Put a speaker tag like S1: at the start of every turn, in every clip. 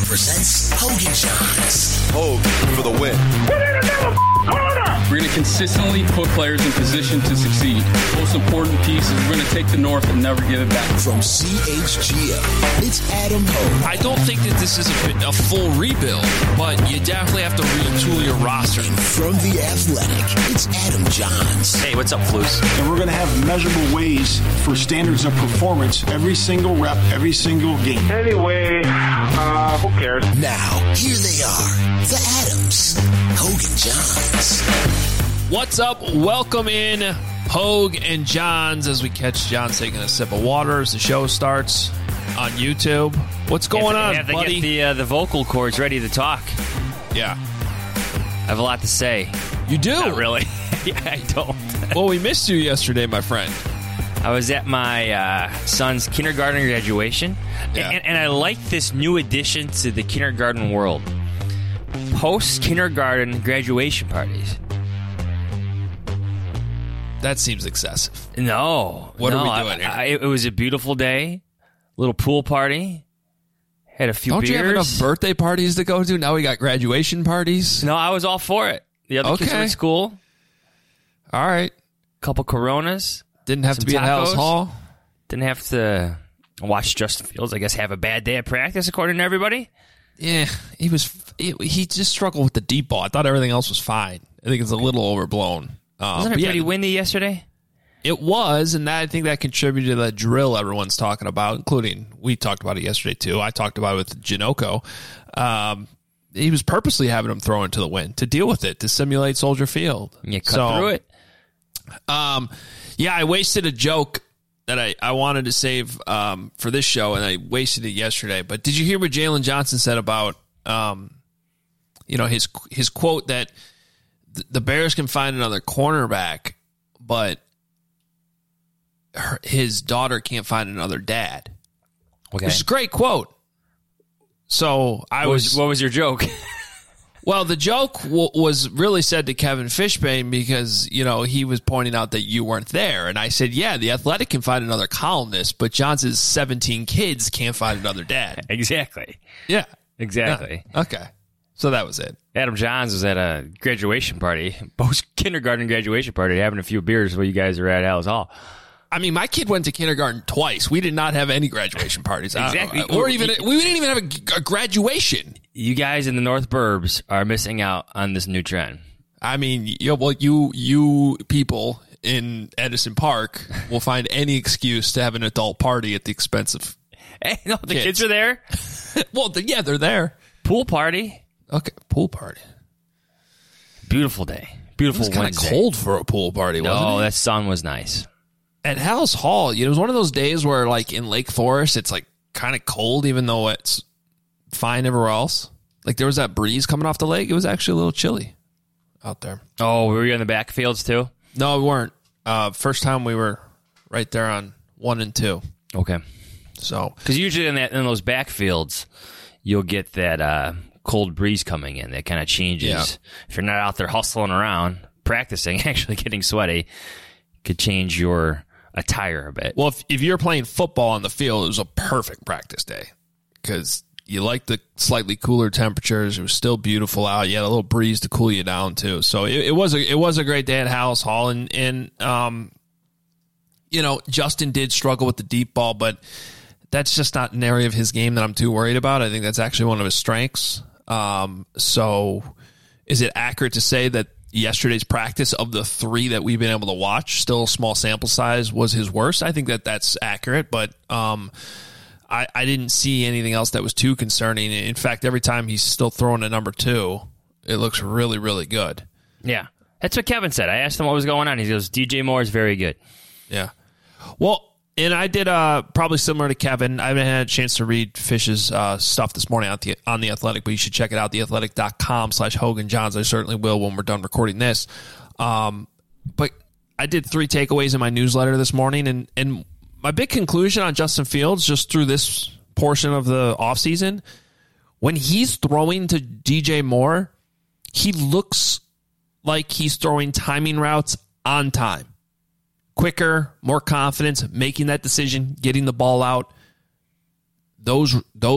S1: presents Hogan Johns.
S2: Hogan for the win.
S3: We're going to consistently put players in position to succeed. Most important piece is we're going to take the North and never give it back.
S1: From CHGO, it's Adam Hogue.
S4: I don't think that this is a full rebuild, but you definitely have to retool your roster.
S1: And from The Athletic, it's Adam Johns.
S5: Hey, what's up, Flus?
S6: And we're going to have measurable ways for standards of performance every single rep, every single game.
S7: Anyway, who cares?
S1: Now, here they are, the Adams, Hogan Johns.
S4: What's up? Welcome in, Hogue and Johns, as we catch Johns taking a sip of water as the show starts on YouTube. What's going on,
S5: have to
S4: buddy?
S5: get the vocal cords ready to talk.
S4: Yeah.
S5: I have a lot to say.
S4: You do?
S5: Not really. I don't.
S4: Well, we missed you yesterday, my friend.
S5: I was at my son's kindergarten graduation,
S4: Yeah.
S5: and I like this new addition to the kindergarten world. Post-kindergarten graduation parties.
S4: That seems excessive.
S5: No.
S4: What are we doing here?
S5: It was a beautiful day. Little pool party. Had a few
S4: Don't
S5: beers.
S4: you have enough birthday parties to go to? Now we got graduation parties?
S5: No, I was all for it. The other kids were at school.
S4: All right.
S5: Couple Coronas.
S4: Didn't have
S5: Some
S4: to be at House
S5: tacos.
S4: Hall?
S5: Didn't have to watch Justin Fields, I guess, have a bad day at practice, according to everybody.
S4: Yeah, he just struggled with the deep ball. I thought everything else was fine. I think it's a little overblown.
S5: Wasn't it pretty windy yesterday?
S4: It was, and I think that contributed to that drill everyone's talking about, including, we talked about it yesterday too. I talked about it with Janoko. He was purposely having him throw into the wind to deal with it, to simulate Soldier Field.
S5: You cut through it.
S4: Yeah, I wasted a joke that I wanted to save for this show, and I wasted it yesterday. But did you hear what Jalen Johnson said about his quote that the Bears can find another cornerback, but his daughter can't find another dad?
S5: Okay.
S4: Which is a great quote. So
S5: What was your joke?
S4: Well, the joke was really said to Kevin Fishbane because, he was pointing out that you weren't there. And I said, yeah, The Athletic can find another columnist, but Johnson's 17 kids can't find another dad.
S5: Exactly.
S4: Yeah.
S5: Exactly.
S4: Yeah. Okay. So that was it.
S5: Adam Johns was at a graduation party, post-kindergarten graduation party, having a few beers while you guys were at House Hall.
S4: I mean, my kid went to kindergarten twice. We did not have any graduation parties.
S5: Exactly.
S4: We didn't even have a graduation.
S5: You guys in the North Burbs are missing out on this new trend.
S4: I mean, you people in Edison Park will find any excuse to have an adult party at the expense of
S5: Hey, no, the kids are there.
S4: Well, yeah, they're there.
S5: Pool party.
S4: Okay, pool party.
S5: Beautiful day. Beautiful
S4: It was kind of
S5: Wednesday.
S4: cold for a pool party, wasn't
S5: No,
S4: it?
S5: that sun was nice.
S4: At House Hall, it was one of those days where, like, in Lake Forest, it's, like, kind of cold, even though it's fine everywhere else. Like, there was that breeze coming off the lake. It was actually a little chilly out there.
S5: Oh, were you in the backfields too?
S4: No, we weren't. First time we were right there on 1 and 2.
S5: Okay.
S4: So,
S5: Because usually in those backfields, you'll get that cold breeze coming in that kind of changes.
S4: Yeah.
S5: If you're not out there hustling around, practicing, actually getting sweaty, could change your attire a bit.
S4: well, if you're playing football on the field, it was a perfect practice day because you like the slightly cooler temperatures. It was still beautiful out. You had a little breeze to cool you down too. So it was a great day at House Hall, and Justin did struggle with the deep ball, but that's just not an area of his game that I'm too worried about. I think that's actually one of his strengths. So is it accurate to say that yesterday's practice, of the 3 that we've been able to watch, still a small sample size, was his worst? I think that's accurate, but I didn't see anything else that was too concerning. In fact, every time he's still throwing a number 2, it looks really, really good.
S5: Yeah. That's what Kevin said. I asked him what was going on. He goes, DJ Moore is very good.
S4: Yeah. Well, and I did probably similar to Kevin. I haven't had a chance to read Fish's stuff this morning on The Athletic, but you should check it out, theathletic.com/Hogan Johns. I certainly will when we're done recording this. But I did 3 takeaways in my newsletter this morning, and my big conclusion on Justin Fields, just through this portion of the offseason, when he's throwing to DJ Moore, he looks like he's throwing timing routes on time. Quicker, more confidence, making that decision, getting the ball out. Those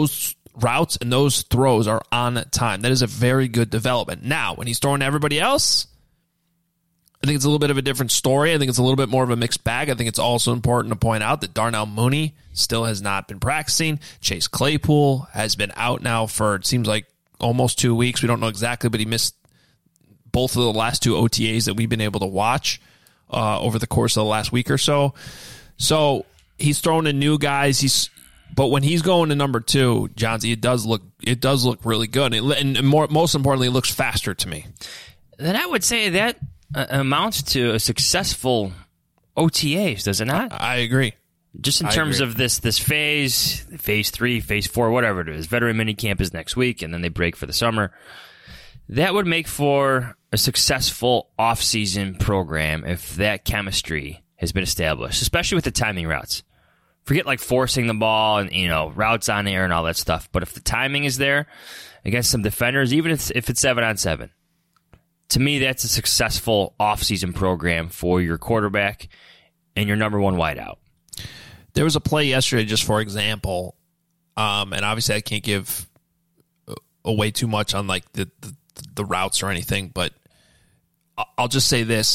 S4: routes and those throws are on time. That is a very good development. Now, when he's throwing to everybody else, I think it's a little bit of a different story. I think it's a little bit more of a mixed bag. I think it's also important to point out that Darnell Mooney still has not been practicing. Chase Claypool has been out now for, it seems like, almost 2 weeks. We don't know exactly, but he missed both of the last 2 OTAs that we've been able to watch over the course of the last week or so. So he's throwing to new guys. But when he's going to number 2, Johnsy, it does look really good, and most importantly, it looks faster to me.
S5: Then I would say that amounts to a successful OTAs, does it not?
S4: I agree.
S5: Just in terms of this phase 3, phase 4, whatever it is. Veteran minicamp is next week, and then they break for the summer. That would make for a successful off-season program if that chemistry has been established, especially with the timing routes. Forget like forcing the ball and, routes on air and all that stuff. But if the timing is there against some defenders, even if it's 7-on-7, to me, that's a successful off-season program for your quarterback and your number 1 wideout.
S4: There was a play yesterday, just for example, and obviously I can't give away too much on like the routes or anything, but I'll just say this: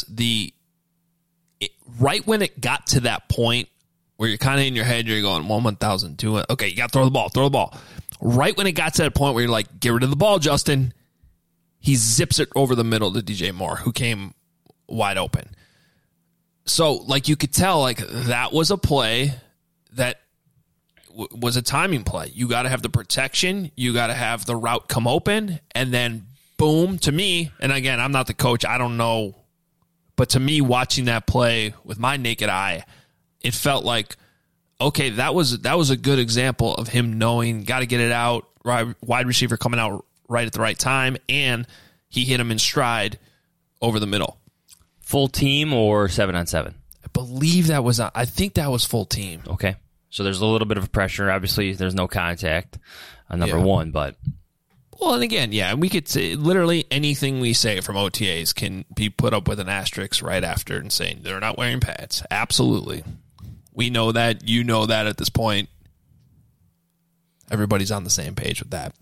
S4: right when it got to that point where you're kind of in your head, you're going 1,000, 2, okay, you got to throw the ball. Right when it got to that point where you're like, get rid of the ball, Justin, he zips it over the middle to DJ Moore, who came wide open. So, like, you could tell, like, that was a play that was a timing play. You got to have the protection. You got to have the route come open. And then, boom, to me, and again, I'm not the coach. I don't know. But to me, watching that play with my naked eye, it felt like, okay, that was a good example of him knowing, got to get it out, wide receiver coming out right at the right time, and he hit him in stride over the middle.
S5: Full team or 7-on-7?
S4: I believe that was, I think that was full team.
S5: Okay. So there's a little bit of pressure. Obviously, there's no contact on number 1, but.
S4: Well, and again, yeah, we could say literally anything we say from OTAs can be put up with an asterisk right after and saying they're not wearing pads. Absolutely. We know that. You know that at this point. Everybody's on the same page with that.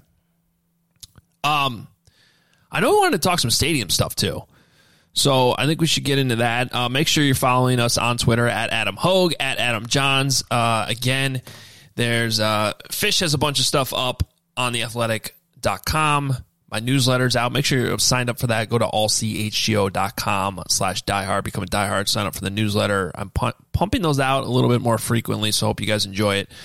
S4: I know we wanted to talk some stadium stuff too. So I think we should get into that. Make sure you're following us on Twitter at Adam Hogue, at Adam Johns. Again, there's Fish has a bunch of stuff up on theathletic.com. My newsletter's out. Make sure you're signed up for that. Go to allchgo.com/diehard. Become a diehard. Sign up for the newsletter. I'm pumping those out a little bit more frequently, so I hope you guys enjoy it.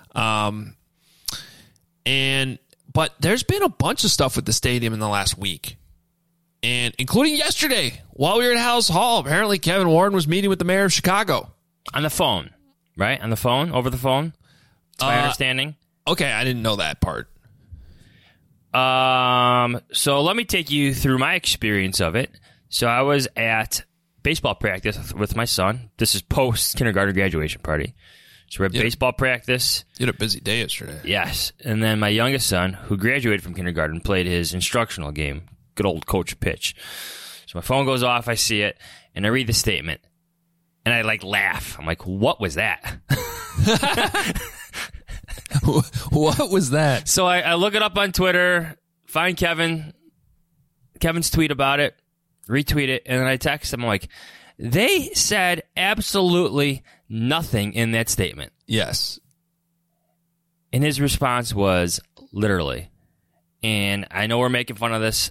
S4: But there's been a bunch of stuff with the stadium in the last week. And including yesterday, while we were at House Hall, apparently Kevin Warren was meeting with the mayor of Chicago.
S5: On the phone, right? On the phone? Over the phone? That's my understanding.
S4: Okay, I didn't know that part.
S5: So let me take you through my experience of it. So I was at baseball practice with my son. This is post-kindergarten graduation party. So we had baseball practice.
S4: You had a busy day yesterday.
S5: Yes. And then my youngest son, who graduated from kindergarten, played his instructional game. Good old coach pitch. So my phone goes off, I see it, and I read the statement. And I laugh. I'm like, what was that?
S4: What was that?
S5: So I look it up on Twitter, find Kevin's tweet about it, retweet it, and then I text him. I'm like, they said absolutely nothing in that statement.
S4: Yes.
S5: And his response was, literally. And I know we're making fun of this.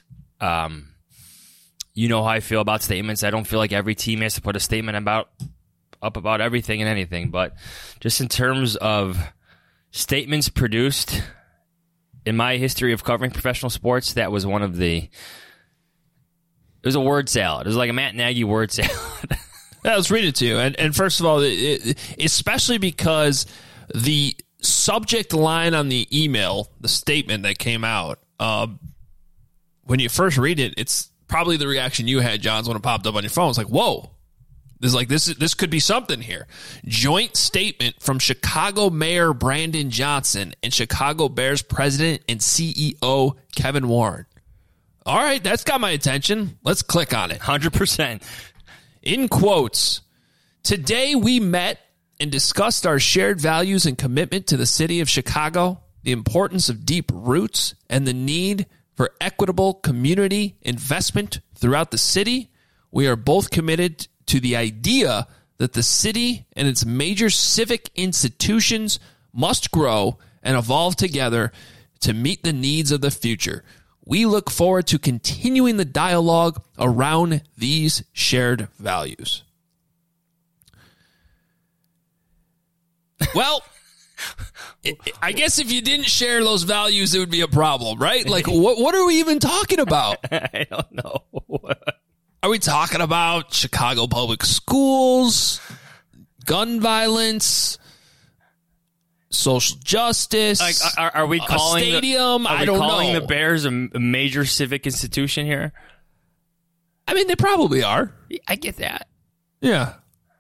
S5: You know how I feel about statements. I don't feel like every team has to put a statement up about everything and anything. But just in terms of statements produced in my history of covering professional sports, that was one of the... It was a word salad. It was like a Matt Nagy word salad.
S4: Yeah, let's read it to you. And first of all, especially because the subject line on the email, the statement that came out, when you first read it, it's probably the reaction you had, Johns, when it popped up on your phone. It's like, whoa. This could be something here. Joint statement from Chicago Mayor Brandon Johnson and Chicago Bears President and CEO Kevin Warren. All right, that's got my attention. Let's click on it.
S5: 100%.
S4: In quotes, today we met and discussed our shared values and commitment to the city of Chicago the importance of deep roots, and the need for equitable community investment throughout the city, we are both committed to the idea that the city and its major civic institutions must grow and evolve together to meet the needs of the future. We look forward to continuing the dialogue around these shared values. Well, I guess if you didn't share those values, it would be a problem, right? Like, what are we even talking about?
S5: I don't know.
S4: Are we talking about Chicago public schools, gun violence, social justice?
S5: Like, are we calling
S4: a stadium?
S5: I
S4: don't know.
S5: Calling the Bears a major civic institution here?
S4: I mean, they probably are.
S5: I get that.
S4: Yeah.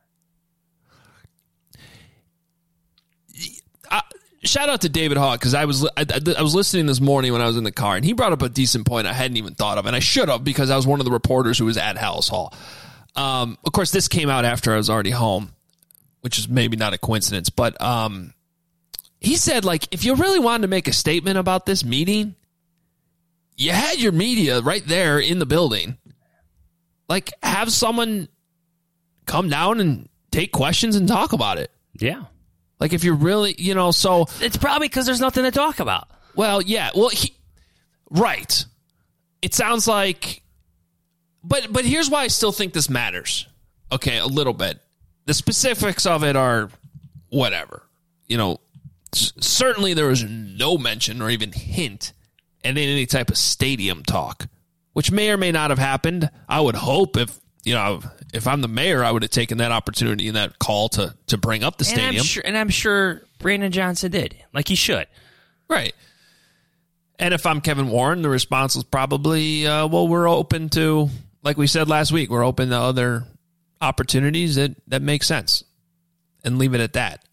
S4: Shout out to David Hawk, because I was listening this morning when I was in the car, and he brought up a decent point I hadn't even thought of, and I should have, because I was one of the reporters who was at Hallis Hall. Of course, this came out after I was already home, which is maybe not a coincidence, but he said, like, if you really wanted to make a statement about this meeting, you had your media right there in the building. Like, have someone come down and take questions and talk about it.
S5: Yeah.
S4: Like, if you're really, so...
S5: It's probably because there's nothing to talk about.
S4: Well, yeah. Well, right. It sounds like... But here's why I still think this matters. Okay, a little bit. The specifics of it are whatever. Certainly there was no mention or even hint at any type of stadium talk, which may or may not have happened. I would hope if I'm the mayor, I would have taken that opportunity and that call to bring up the stadium.
S5: And I'm sure Brandon Johnson did, like he should.
S4: Right. And if I'm Kevin Warren, the response was probably, we're open to, like we said last week, we're open to other opportunities that make sense, and leave it at that.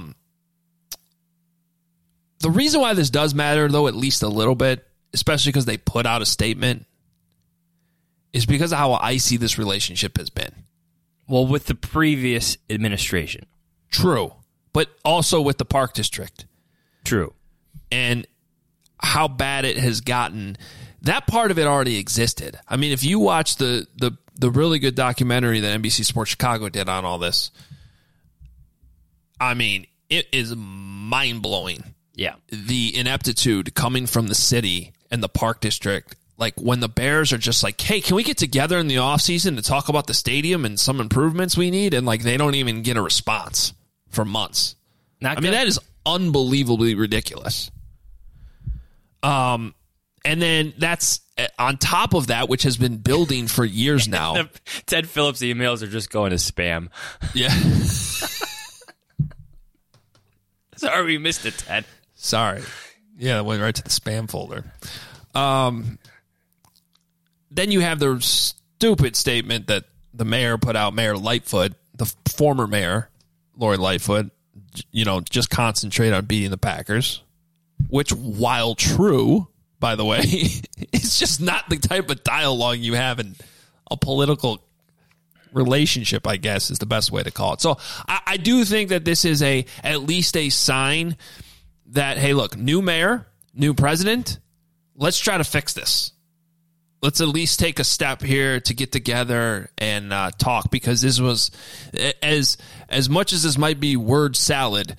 S4: The reason why this does matter, though, at least a little bit, especially because they put out a statement, is because of how icy this relationship has been.
S5: Well, with the previous administration.
S4: True. But also with the Park District.
S5: True.
S4: And how bad it has gotten. That part of it already existed. I mean, if you watch the really good documentary that NBC Sports Chicago did on all this, I mean, it is mind-blowing.
S5: Yeah.
S4: The ineptitude coming from the city and the Park District. Like, when the Bears are just like, hey, can we get together in the offseason to talk about the stadium and some improvements we need? And, like, they don't even get a response for months. I mean, that is unbelievably ridiculous. And then that's on top of that, which has been building for years now.
S5: Ted Phillips' emails are just going to spam.
S4: Yeah.
S5: Sorry, we missed it, Ted.
S4: Sorry. Yeah, it went right to the spam folder. Then you have the stupid statement that the mayor put out, Mayor Lightfoot, the former mayor, Lori Lightfoot, just concentrate on beating the Packers, which, while true, by the way, it's just not the type of dialogue you have in a political relationship, I guess, is the best way to call it. So I do think that this is at least a sign that, hey, look, new mayor, new president, let's try to fix this. Let's at least take a step here to get together and talk, because this was, as much as this might be word salad,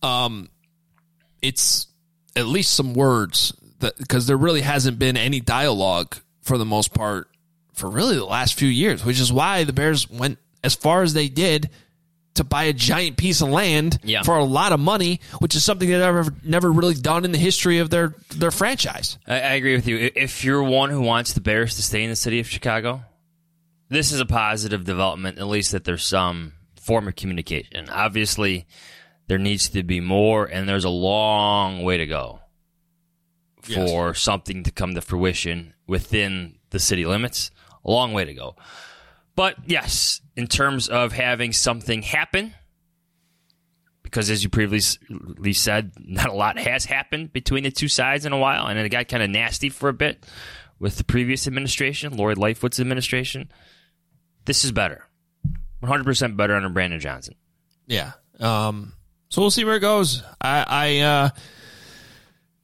S4: it's at least some words, because there really hasn't been any dialogue for the most part for really the last few years, which is why the Bears went as far as they did to buy a giant piece of land for a lot of money, which is something they've never really done in the history of their franchise.
S5: I agree with you. If you're one who wants the Bears to stay in the city of Chicago, this is a positive development, at least that there's some form of communication. Obviously, there needs to be more, and there's a long way to go for something to come to fruition within the city limits. A long way to go. But yes, in terms of having something happen, because as you previously said, not a lot has happened between the two sides in a while, and it got kind of nasty for a bit with the previous administration, Lori Lightfoot's administration. This is better. 100% better under Brandon Johnson.
S4: Yeah. So we'll see where it goes.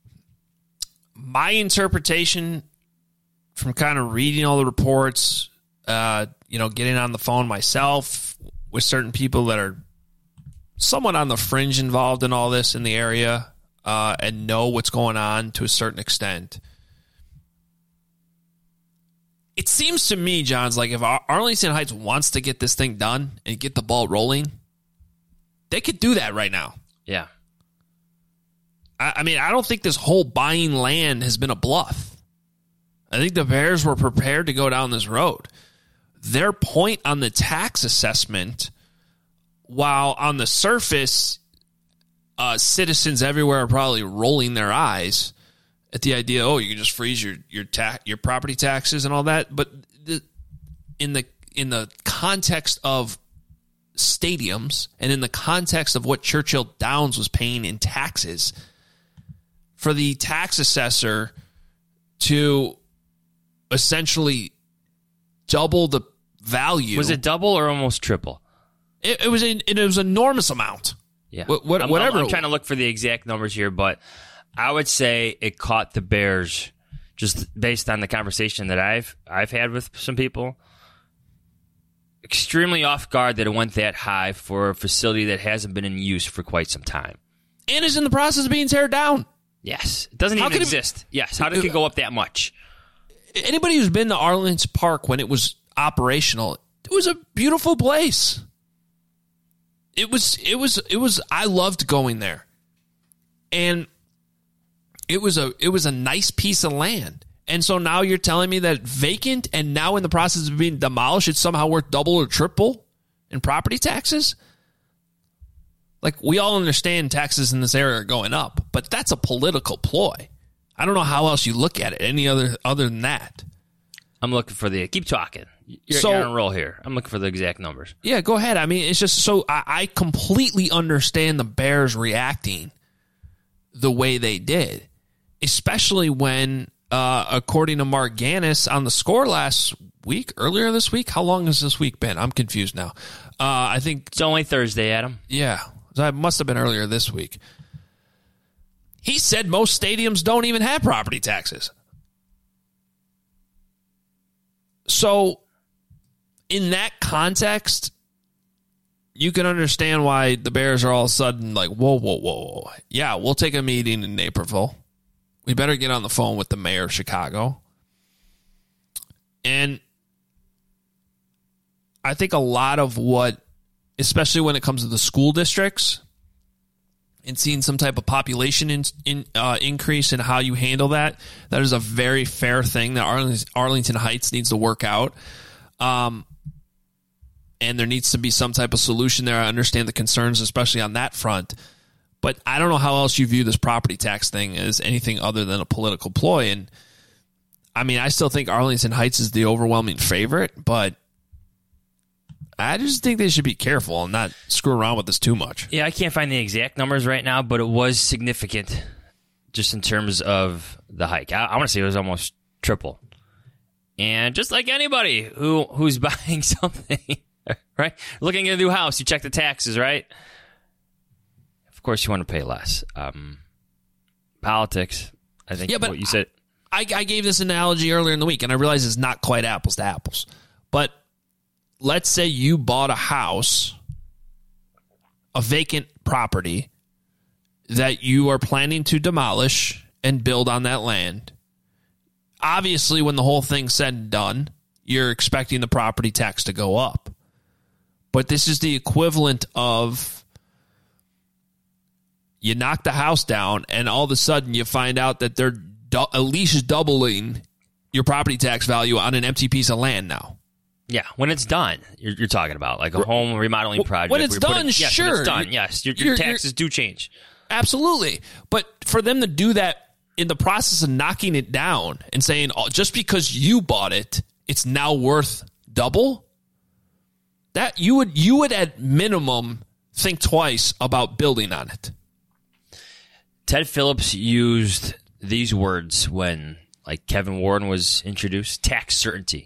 S4: My interpretation from kind of reading all the reports, getting on the phone myself with certain people that are somewhat on the fringe involved in all this in the area and know what's going on to a certain extent. It seems to me, John's, like if Arlington Heights wants to get this thing done and get the ball rolling, they could do that right now.
S5: Yeah.
S4: I mean, I don't think this whole buying land has been a bluff. I think the Bears were prepared to go down this road. Their point on the tax assessment, while on the surface, citizens everywhere are probably rolling their eyes at the idea, you can just freeze your property taxes and all that. But in the context of stadiums and in the context of what Churchill Downs was paying in taxes, for the tax assessor to essentially double the value.
S5: Was it double or almost triple?
S4: It was an enormous amount.
S5: Yeah.
S4: Whatever.
S5: I'm trying to look for the exact numbers here, but I would say it caught the Bears, just based on the conversation that I've had with some people, extremely off guard that it went that high for a facility that hasn't been in use for quite some time.
S4: And is in the process of being teared down.
S5: Yes. It doesn't even exist. Yes. How did it go up that much?
S4: Anybody who's been to Arlington Park when it was operational, it was a beautiful place. It was I loved going there. And it was a nice piece of land. And so now you're telling me that vacant and now in the process of being demolished, it's somehow worth double or triple in property taxes? Like, we all understand taxes in this area are going up, but that's a political ploy. I don't know how else you look at it, any other than that.
S5: I'm looking for keep talking. You're on a roll here. I'm looking for the exact numbers.
S4: Yeah, go ahead. I mean, it's just so I completely understand the Bears reacting the way they did, especially when, according to Mark Gannis on the Score earlier this week, how long has this week been? I'm confused now. I think
S5: it's only Thursday, Adam.
S4: Yeah, it must have been earlier this week. He said most stadiums don't even have property taxes. So, in that context, you can understand why the Bears are all of a sudden like, whoa. Yeah, we'll take a meeting in Naperville. We better get on the phone with the mayor of Chicago. And I think a lot of what, especially when it comes to the school districts and seeing some type of population increase in how you handle that is a very fair thing that Arlington Heights needs to work out. And there needs to be some type of solution there. I understand the concerns, especially on that front. But I don't know how else you view this property tax thing as anything other than a political ploy. And, I mean, I still think Arlington Heights is the overwhelming favorite, but I just think they should be careful and not screw around with this too much.
S5: Yeah, I can't find the exact numbers right now, but it was significant just in terms of the hike. I want to say it was almost triple. And just like anybody who's buying something, right? Looking at a new house, you check the taxes, right? Of course, you want to pay less. Politics, I think. Yeah, but what you said.
S4: I gave this analogy earlier in the week, and I realize it's not quite apples to apples. But let's say you bought a house, a vacant property that you are planning to demolish and build on that land. Obviously, when the whole thing's said and done, you're expecting the property tax to go up. But this is the equivalent of you knock the house down, and all of a sudden you find out that they're at least doubling your property tax value on an empty piece of land now.
S5: Yeah, when it's done, you're talking about like a home remodeling project.
S4: When it's done, sure.
S5: When it's done, yes, your taxes do change.
S4: Absolutely. But for them to do that in the process of knocking it down and saying, just because you bought it, it's now worth double, that you would at minimum think twice about building on it.
S5: Ted Phillips used these words when, like, Kevin Warren was introduced: tax certainty.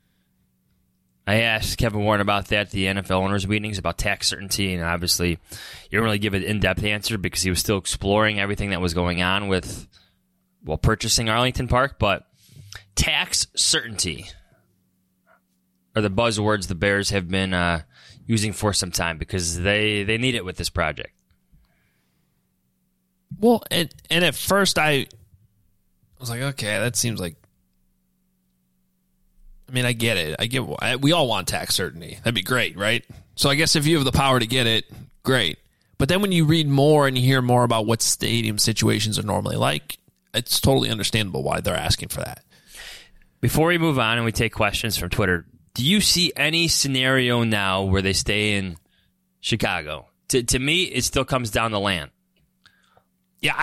S5: I asked Kevin Warren about that at the NFL owners' meetings, about tax certainty, and obviously he didn't really give an in-depth answer because he was still exploring everything that was going on with purchasing Arlington Park, but tax certainty are the buzzwords the Bears have been using for some time because they need it with this project.
S4: Well, and at first I was like, okay, that seems like. I mean, I get it. We all want tax certainty. That'd be great, right? So I guess if you have the power to get it, great. But then when you read more and you hear more about what stadium situations are normally like, it's totally understandable why they're asking for that.
S5: Before we move on and we take questions from Twitter, do you see any scenario now where they stay in Chicago? To me, it still comes down to land.
S4: Yeah,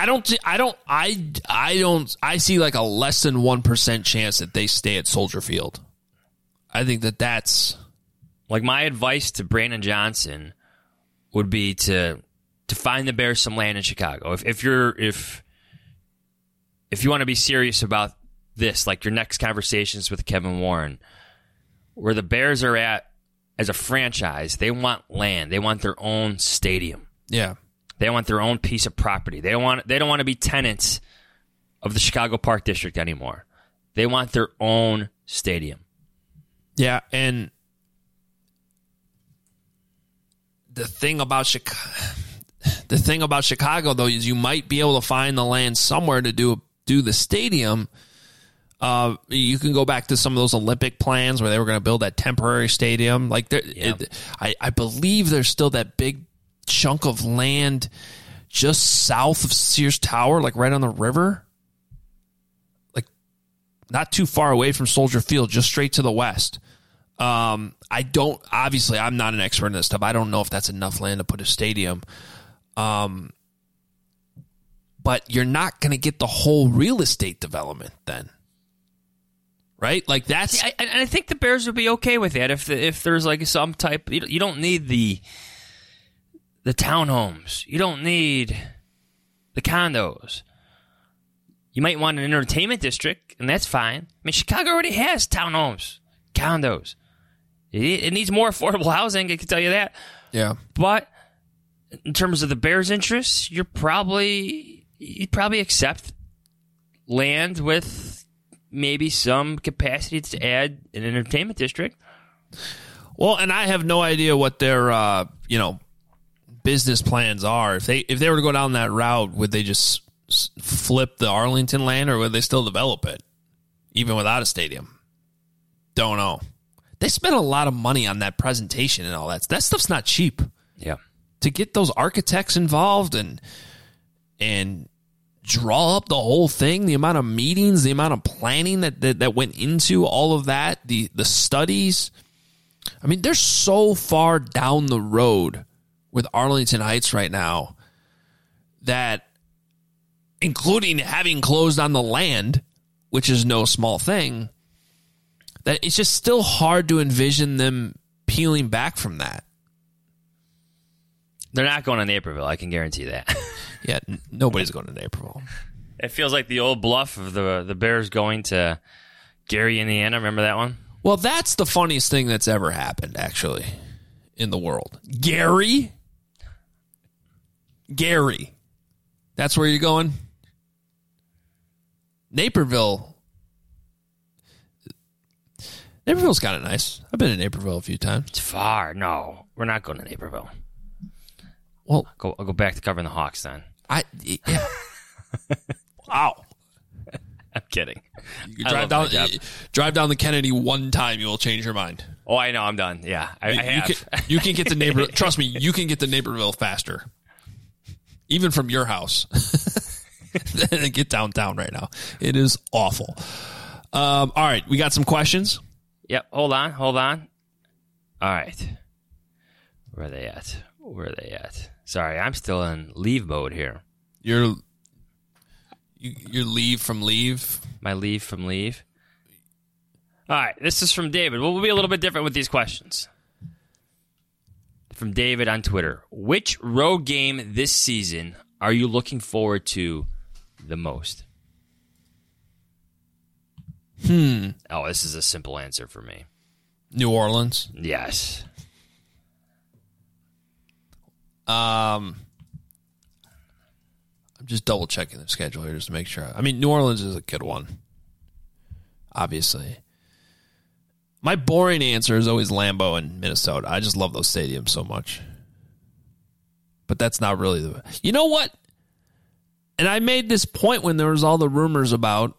S4: I see like a less than 1% chance that they stay at Soldier Field. I think that's
S5: like my advice to Brandon Johnson would be to find the Bears some land in Chicago. If you want to be serious about this, like your next conversations with Kevin Warren, where the Bears are at as a franchise, they want land. They want their own stadium.
S4: Yeah.
S5: They want their own piece of property. They don't want to be tenants of the Chicago Park District anymore. They want their own stadium.
S4: Yeah, and the thing about Chicago though is you might be able to find the land somewhere to do the stadium. You can go back to some of those Olympic plans where they were going to build that temporary stadium. Like, I believe there's still that big chunk of land just south of Sears Tower, like right on the river, like not too far away from Soldier Field, just straight to the west. I'm not an expert in this stuff. I don't know if that's enough land to put a stadium. But you're not going to get the whole real estate development then. Right? Like that's...
S5: See, I think the Bears would be okay with that if there's like some type... You don't need the townhomes. You don't need the condos. You might want an entertainment district, and that's fine. I mean, Chicago already has townhomes, condos. It needs more affordable housing, I can tell you that.
S4: Yeah.
S5: But in terms of the Bears' interests, you'd probably accept land with maybe some capacity to add an entertainment district.
S4: Well, and I have no idea what their business plans are. If they were to go down that route, would they just flip the Arlington land, or would they still develop it even without a stadium? Don't know. They spent a lot of money on that presentation and all that. That stuff's not cheap.
S5: Yeah.
S4: To get those architects involved and draw up the whole thing, the amount of meetings, the amount of planning that went into all of that, the studies. I mean, they're so far down the road with Arlington Heights right now that, including having closed on the land, which is no small thing, that it's just still hard to envision them peeling back from that.
S5: They're not going to Naperville, I can guarantee that.
S4: Yeah, nobody's going to Naperville.
S5: It feels like the old bluff of the Bears going to Gary, Indiana. Remember that one?
S4: Well, that's the funniest thing that's ever happened, actually, in the world. Gary? That's where you're going? Naperville's kind of nice. I've been to Naperville a few times.
S5: It's far. No, we're not going to Naperville.
S4: Well,
S5: I'll go back to covering the Hawks then.
S4: Yeah. Wow.
S5: I'm kidding.
S4: You drive down the Kennedy one time, you will change your mind.
S5: Oh, I know. I'm done. Yeah, I have.
S4: You can get to Naperville. Trust me, you can get to Naperville faster, even from your house. Than get downtown right now. It is awful. All right, we got some questions.
S5: Yep. Hold on. All right. Where are they at? Sorry, I'm still in leave mode here.
S4: Your leave from leave?
S5: My leave from leave. All right, this is from David. We'll be a little bit different with these questions. From David on Twitter. Which road game this season are you looking forward to the most? Oh, this is a simple answer for me.
S4: New Orleans?
S5: Yes.
S4: I'm just double checking the schedule here just to make sure. I mean, New Orleans is a good one, obviously. My boring answer is always Lambeau and Minnesota. I just love those stadiums so much. But that's not really the... You know what? And I made this point when there was all the rumors about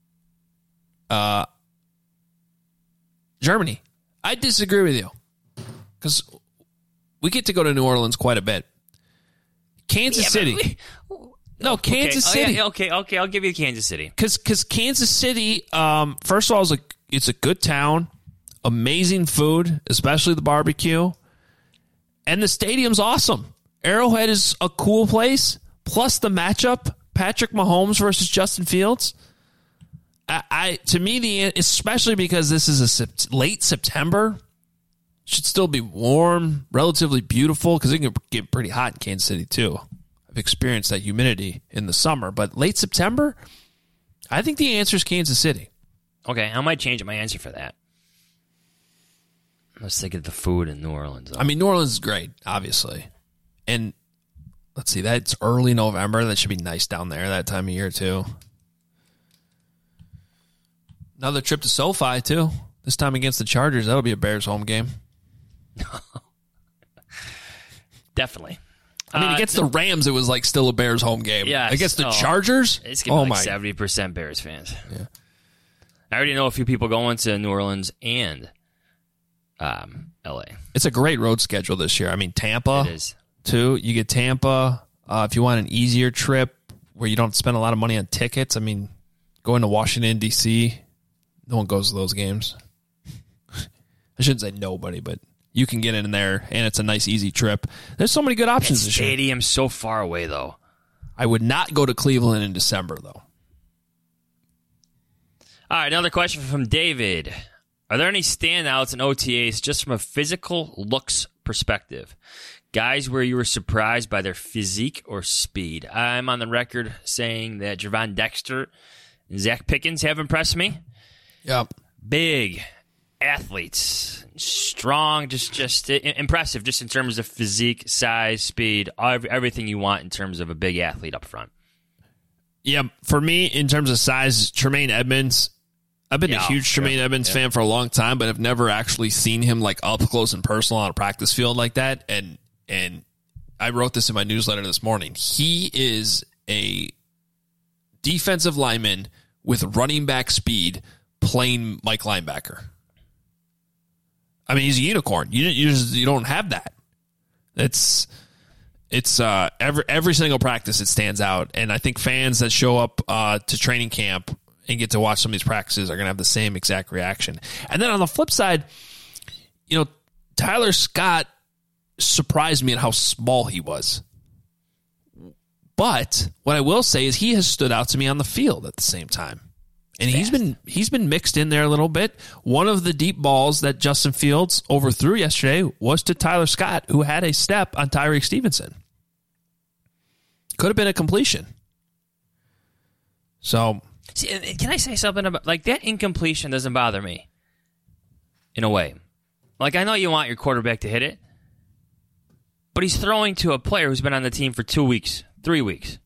S4: Germany. I disagree with you. Because we get to go to New Orleans quite a bit. Kansas City. Kansas City.
S5: Okay, I'll give you Kansas City.
S4: Because Kansas City, first of all, it's a good town. Amazing food, especially the barbecue. And the stadium's awesome. Arrowhead is a cool place. Plus the matchup, Patrick Mahomes versus Justin Fields. To me, especially because this is late September, should still be warm, relatively beautiful, because it can get pretty hot in Kansas City too. I've experienced that humidity in the summer, but late September, I think the answer is Kansas City.
S5: Okay, I might change my answer for that. Let's think of the food in New Orleans.
S4: I mean, New Orleans is great, obviously. And let's see, that's early November. That should be nice down there that time of year, too. Another trip to SoFi, too. This time against the Chargers. That'll be a Bears home game.
S5: Definitely.
S4: I mean, against the Rams, it was like still a Bears home game.
S5: Yeah.
S4: Against the Chargers?
S5: It's going to be like 70% Bears fans.
S4: Yeah.
S5: I already know a few people going to New Orleans and L.A.
S4: It's a great road schedule this year. I mean, Tampa,
S5: it is.
S4: Too. You get Tampa. If you want an easier trip where you don't spend a lot of money on tickets, I mean, going to Washington, D.C., no one goes to those games. I shouldn't say nobody, but you can get in there, and it's a nice, easy trip. There's so many good options this year.
S5: Stadium's so far away, though.
S4: I would not go to Cleveland in December, though.
S5: All right, another question from David. Are there any standouts in OTAs just from a physical looks perspective? Guys where you were surprised by their physique or speed? I'm on the record saying that Javon Dexter and Zach Pickens have impressed me.
S4: Yep.
S5: Big athletes, strong, just impressive, just in terms of physique, size, speed, everything you want in terms of a big athlete up front.
S4: Yeah, for me, in terms of size, Tremaine Edmonds. I've been a huge Tremaine Edmonds fan for a long time, but I've never actually seen him like up close and personal on a practice field like that. And I wrote this in my newsletter this morning. He is a defensive lineman with running back speed playing Mike linebacker. I mean, he's a unicorn. You don't have that. It's every single practice it stands out, and I think fans that show up to training camp and get to watch some of these practices are going to have the same exact reaction. And then on the flip side, Tyler Scott surprised me at how small he was. But what I will say is he has stood out to me on the field at the same time. And he's been mixed in there a little bit. One of the deep balls that Justin Fields overthrew yesterday was to Tyler Scott, who had a step on Tyreek Stevenson. Could have been a completion. So,
S5: see, can I say something about like that incompletion doesn't bother me in a way. Like, I know you want your quarterback to hit it, but he's throwing to a player who's been on the team for 2 weeks, 3 weeks.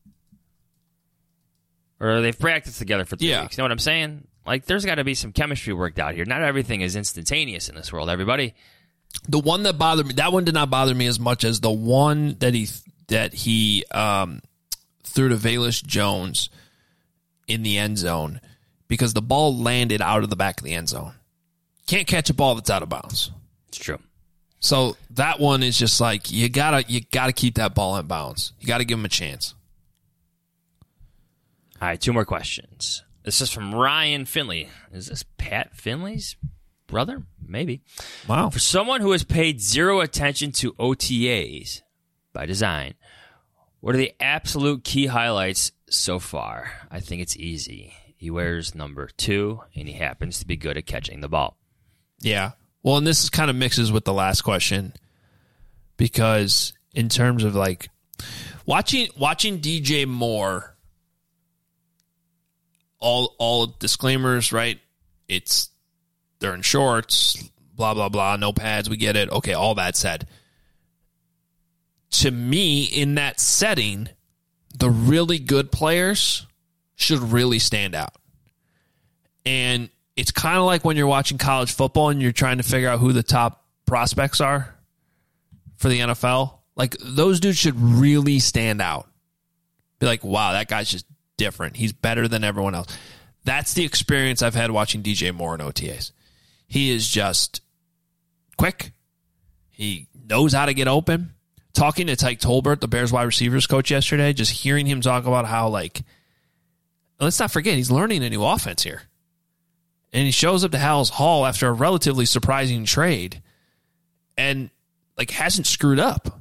S5: Or they've practiced together for 3 weeks. You know what I'm saying? Like, there's got to be some chemistry worked out here. Not everything is instantaneous in this world, everybody.
S4: The one that bothered me, that one did not bother me as much as the one that he threw to Velus Jones in the end zone, because the ball landed out of the back of the end zone. Can't catch a ball that's out of bounds.
S5: It's true.
S4: So that one is just like, you gotta keep that ball in bounds. You gotta give him a chance.
S5: All right, 2 more questions. This is from Ryan Finley. Is this Pat Finley's brother? Maybe.
S4: Wow.
S5: For someone who has paid zero attention to OTAs by design, what are the absolute key highlights so far? I think it's easy. He wears number 2, and he happens to be good at catching the ball.
S4: Yeah. Well, and this kind of mixes with the last question, because in terms of like watching DJ Moore, all disclaimers, right? They're in shorts, blah, blah, blah, no pads, we get it. Okay, all that said. To me, in that setting, the really good players should really stand out. And it's kind of like when you're watching college football and you're trying to figure out who the top prospects are for the NFL. Like, those dudes should really stand out. Be like, wow, that guy's just different. He's better than everyone else. That's the experience I've had watching DJ Moore in OTAs. He is just quick. He knows how to get open. Talking to Tyke Tolbert, the Bears wide receivers coach yesterday, just hearing him talk about how, like, let's not forget, he's learning a new offense here. And he shows up to Hal's Hall after a relatively surprising trade and, like, hasn't screwed up.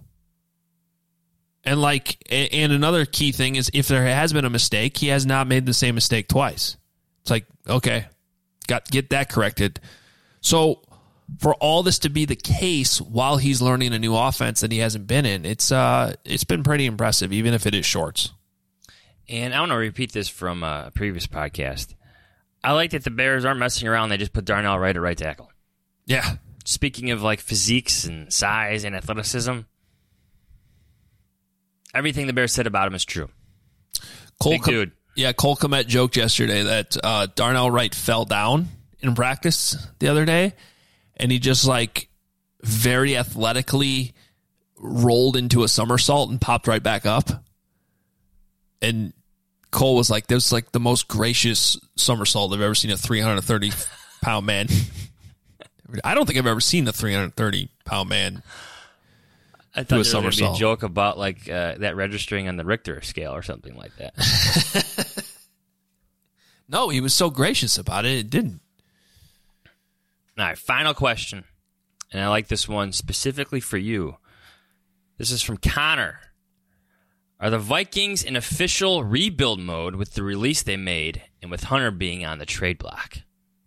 S4: And, like, and another key thing is if there has been a mistake, he has not made the same mistake twice. It's like, okay, get that corrected. So for all this to be the case while he's learning a new offense that he hasn't been in, it's been pretty impressive, even if it is shorts.
S5: And I want to repeat this from a previous podcast. I like that the Bears aren't messing around. They just put Darnell Wright at right tackle.
S4: Yeah.
S5: Speaking of, like, physiques and size and athleticism, everything the Bears said about him is true. Big dude.
S4: Yeah, Cole Kmet joked yesterday that Darnell Wright fell down in practice the other day, and he just, like, very athletically rolled into a somersault and popped right back up. And Cole was like, "This was like the most gracious somersault I've ever seen a 330-pound man." I don't think I've ever seen a 330-pound man.
S5: I thought there was going to be a joke about, like, that registering on the Richter scale or something like that.
S4: No, he was so gracious about it, it didn't.
S5: All right, final question. And I like this one specifically for you. This is from Connor. Are the Vikings in official rebuild mode with the release they made and with Hunter being on the trade block?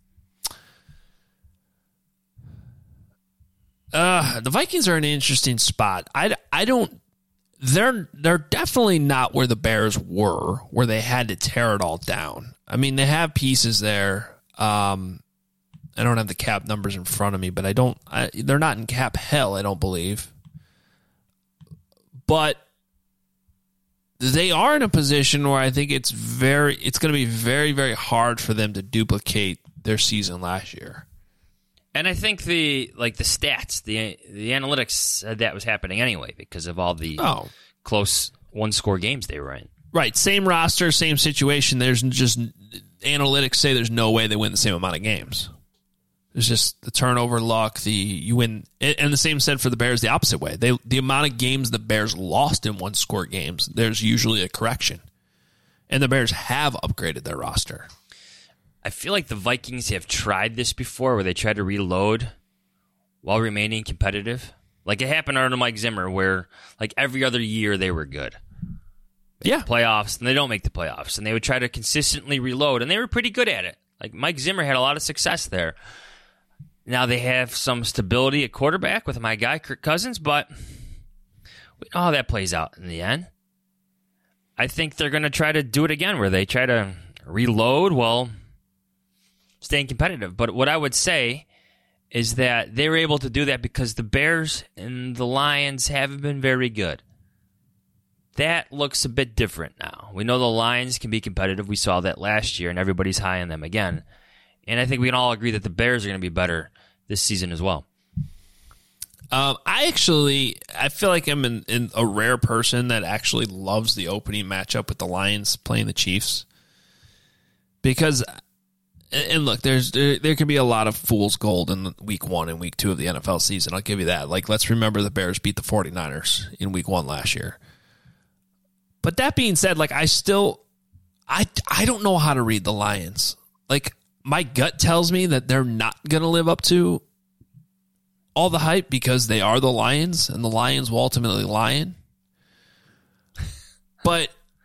S4: The Vikings are in an interesting spot. They're definitely not where the Bears were, where they had to tear it all down. I mean, they have pieces there. I don't have the cap numbers in front of me, but they're not in cap hell, I don't believe. But they are in a position where I think it's going to be very, very hard for them to duplicate their season last year.
S5: And I think the stats, the analytics said that was happening anyway because of all the close one-score games they were in.
S4: Right, same roster, same situation. There's just analytics say there's no way they win the same amount of games. There's just the turnover luck, you win, and the same said for the Bears the opposite way. The amount of games the Bears lost in one-score games, there's usually a correction. And the Bears have upgraded their roster.
S5: I feel like the Vikings have tried this before where they tried to reload while remaining competitive. Like it happened under Mike Zimmer where like every other year they were good.
S4: Yeah.
S5: Playoffs, and they don't make the playoffs. And they would try to consistently reload, and they were pretty good at it. Like Mike Zimmer had a lot of success there. Now they have some stability at quarterback with my guy, Kirk Cousins, but we know how that plays out in the end. I think they're going to try to do it again where they try to reload while staying competitive. But what I would say is that they were able to do that because the Bears and the Lions haven't been very good. That looks a bit different now. We know the Lions can be competitive. We saw that last year, and everybody's high on them again. And I think we can all agree that the Bears are going to be better this season as well.
S4: I feel like I'm in a rare person that actually loves the opening matchup with the Lions playing the Chiefs. Because, and look, there can be a lot of fool's gold in week 1 and week 2 of the NFL season. I'll give you that. Like, let's remember the Bears beat the 49ers in week 1 last year. But that being said, like, I don't know how to read the Lions. Like, my gut tells me that they're not going to live up to all the hype because they are the Lions, and the Lions will ultimately lion. But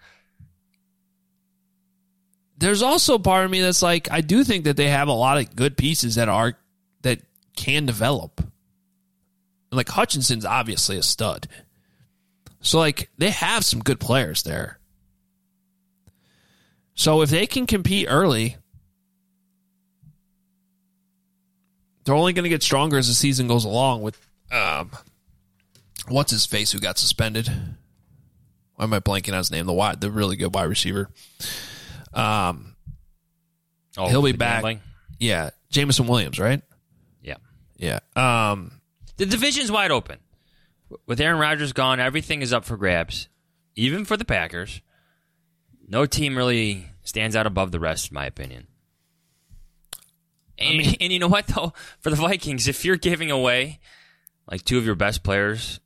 S4: there's also part of me that's like, I do think that they have a lot of good pieces that can develop. Like, Hutchinson's obviously a stud. So, like, they have some good players there. So if they can compete early, they're only going to get stronger as the season goes along with, what's his face who got suspended? Why am I blanking on his name? The really good wide receiver. He'll be back.
S5: Gambling?
S4: Yeah, Jameson Williams, right?
S5: Yeah.
S4: Yeah.
S5: The division's wide open. With Aaron Rodgers gone, everything is up for grabs, even for the Packers. No team really stands out above the rest, in my opinion. And you know what, though? For the Vikings, if you're giving away like two of your best players,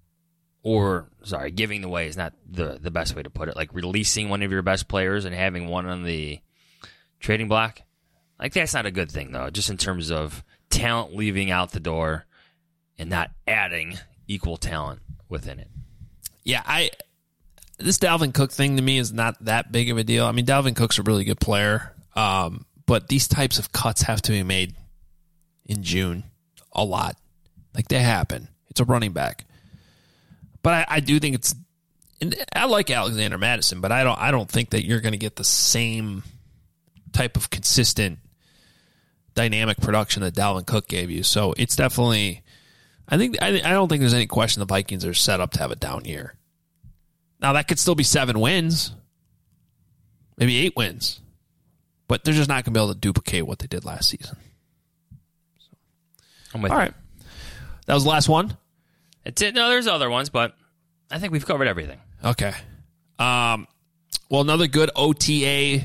S5: giving away is not the best way to put it, like releasing one of your best players and having one on the trading block, like that's not a good thing, though, just in terms of talent leaving out the door and not adding equal talent within it.
S4: Yeah, this Dalvin Cook thing to me is not that big of a deal. I mean, Dalvin Cook's a really good player, but these types of cuts have to be made in June a lot. Like, they happen. It's a running back. But I do think it's – I like Alexander Mattison, but I don't think that you're going to get the same type of consistent dynamic production that Dalvin Cook gave you. So it's definitely – I don't think there's any question the Vikings are set up to have a down year. Now, that could still be 7 wins, maybe 8 wins, but they're just not going to be able to duplicate what they did last season. So.
S5: I'm with
S4: All
S5: you.
S4: right. That was the last one?
S5: That's it. No, there's other ones, but I think we've covered everything.
S4: Okay. Well, another good OTA.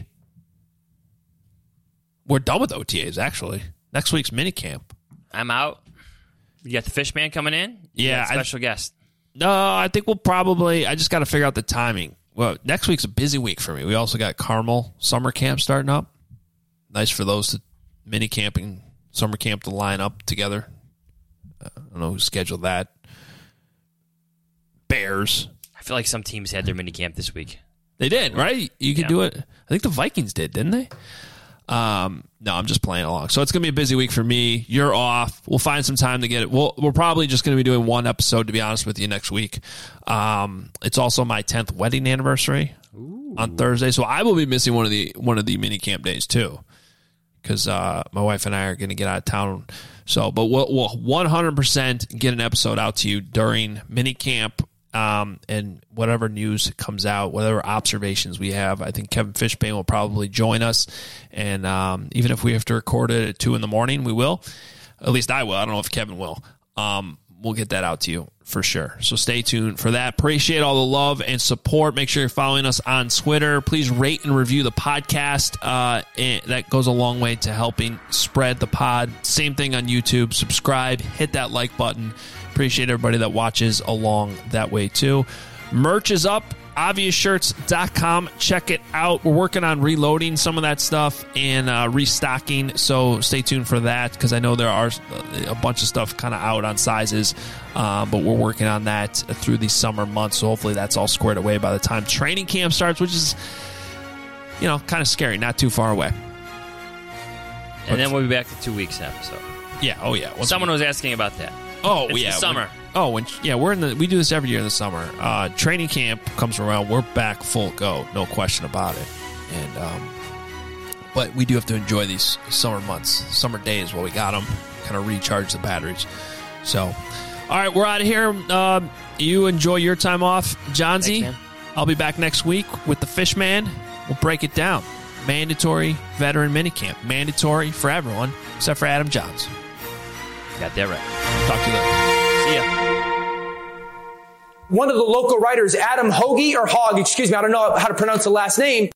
S4: We're done with OTAs, actually. Next week's minicamp.
S5: I'm out. You got the fish man coming in?
S4: Yeah.
S5: Special guest.
S4: No, I think we'll probably... I just got to figure out the timing. Well, next week's a busy week for me. We also got Carmel summer camp starting up. Nice for those to minicamp and summer camp to line up together. I don't know who scheduled that. Bears.
S5: I feel like some teams had their mini camp this week.
S4: They did, right? You could do it. I think the Vikings did, didn't they? No, I'm just playing along. So it's going to be a busy week for me. You're off. We'll find some time to get it. We're probably just going to be doing one episode, to be honest with you, next week. It's also my 10th wedding anniversary on Thursday, so I will be missing one of the mini camp days too, because my wife and I are going to get out of town. So, but we'll 100% get an episode out to you during mini camp. And whatever news comes out, whatever observations we have, I think Kevin Fishbane will probably join us. And even if we have to record it at 2 a.m, we will. At least I will. I don't know if Kevin will. We'll get that out to you for sure. So stay tuned for that. Appreciate all the love and support. Make sure you're following us on Twitter. Please rate and review the podcast. That goes a long way to helping spread the pod. Same thing on YouTube. Subscribe. Hit that like button. Appreciate everybody that watches along that way too. Merch is up, obviousshirts.com. Check it out. We're working on reloading some of that stuff and restocking, so stay tuned for that, because I know there are a bunch of stuff kind of out on sizes, but we're working on that through these summer months, so hopefully that's all squared away by the time training camp starts, which is, kind of scary, not too far away.
S5: And then we'll be back to 2 weeks episode.
S4: Yeah, oh yeah.
S5: Someone was asking about that.
S4: Oh,
S5: it's
S4: yeah.
S5: The summer.
S4: We do this every year in the summer. Training camp comes around. We're back full go. No question about it. And but we do have to enjoy these summer months, summer days while we got them, kind of recharge the batteries. So, all right, we're out of here. You enjoy your time off, Johnsy.
S5: Thanks, man.
S4: I'll be back next week with the Fish Man. We'll break it down. Mandatory veteran minicamp. Mandatory for everyone except for Adam Johns.
S5: Got that right.
S4: Talk to you later.
S5: See ya.
S2: One of the local writers, Adam Hoagie, or Hogg, excuse me, I don't know how to pronounce the last name.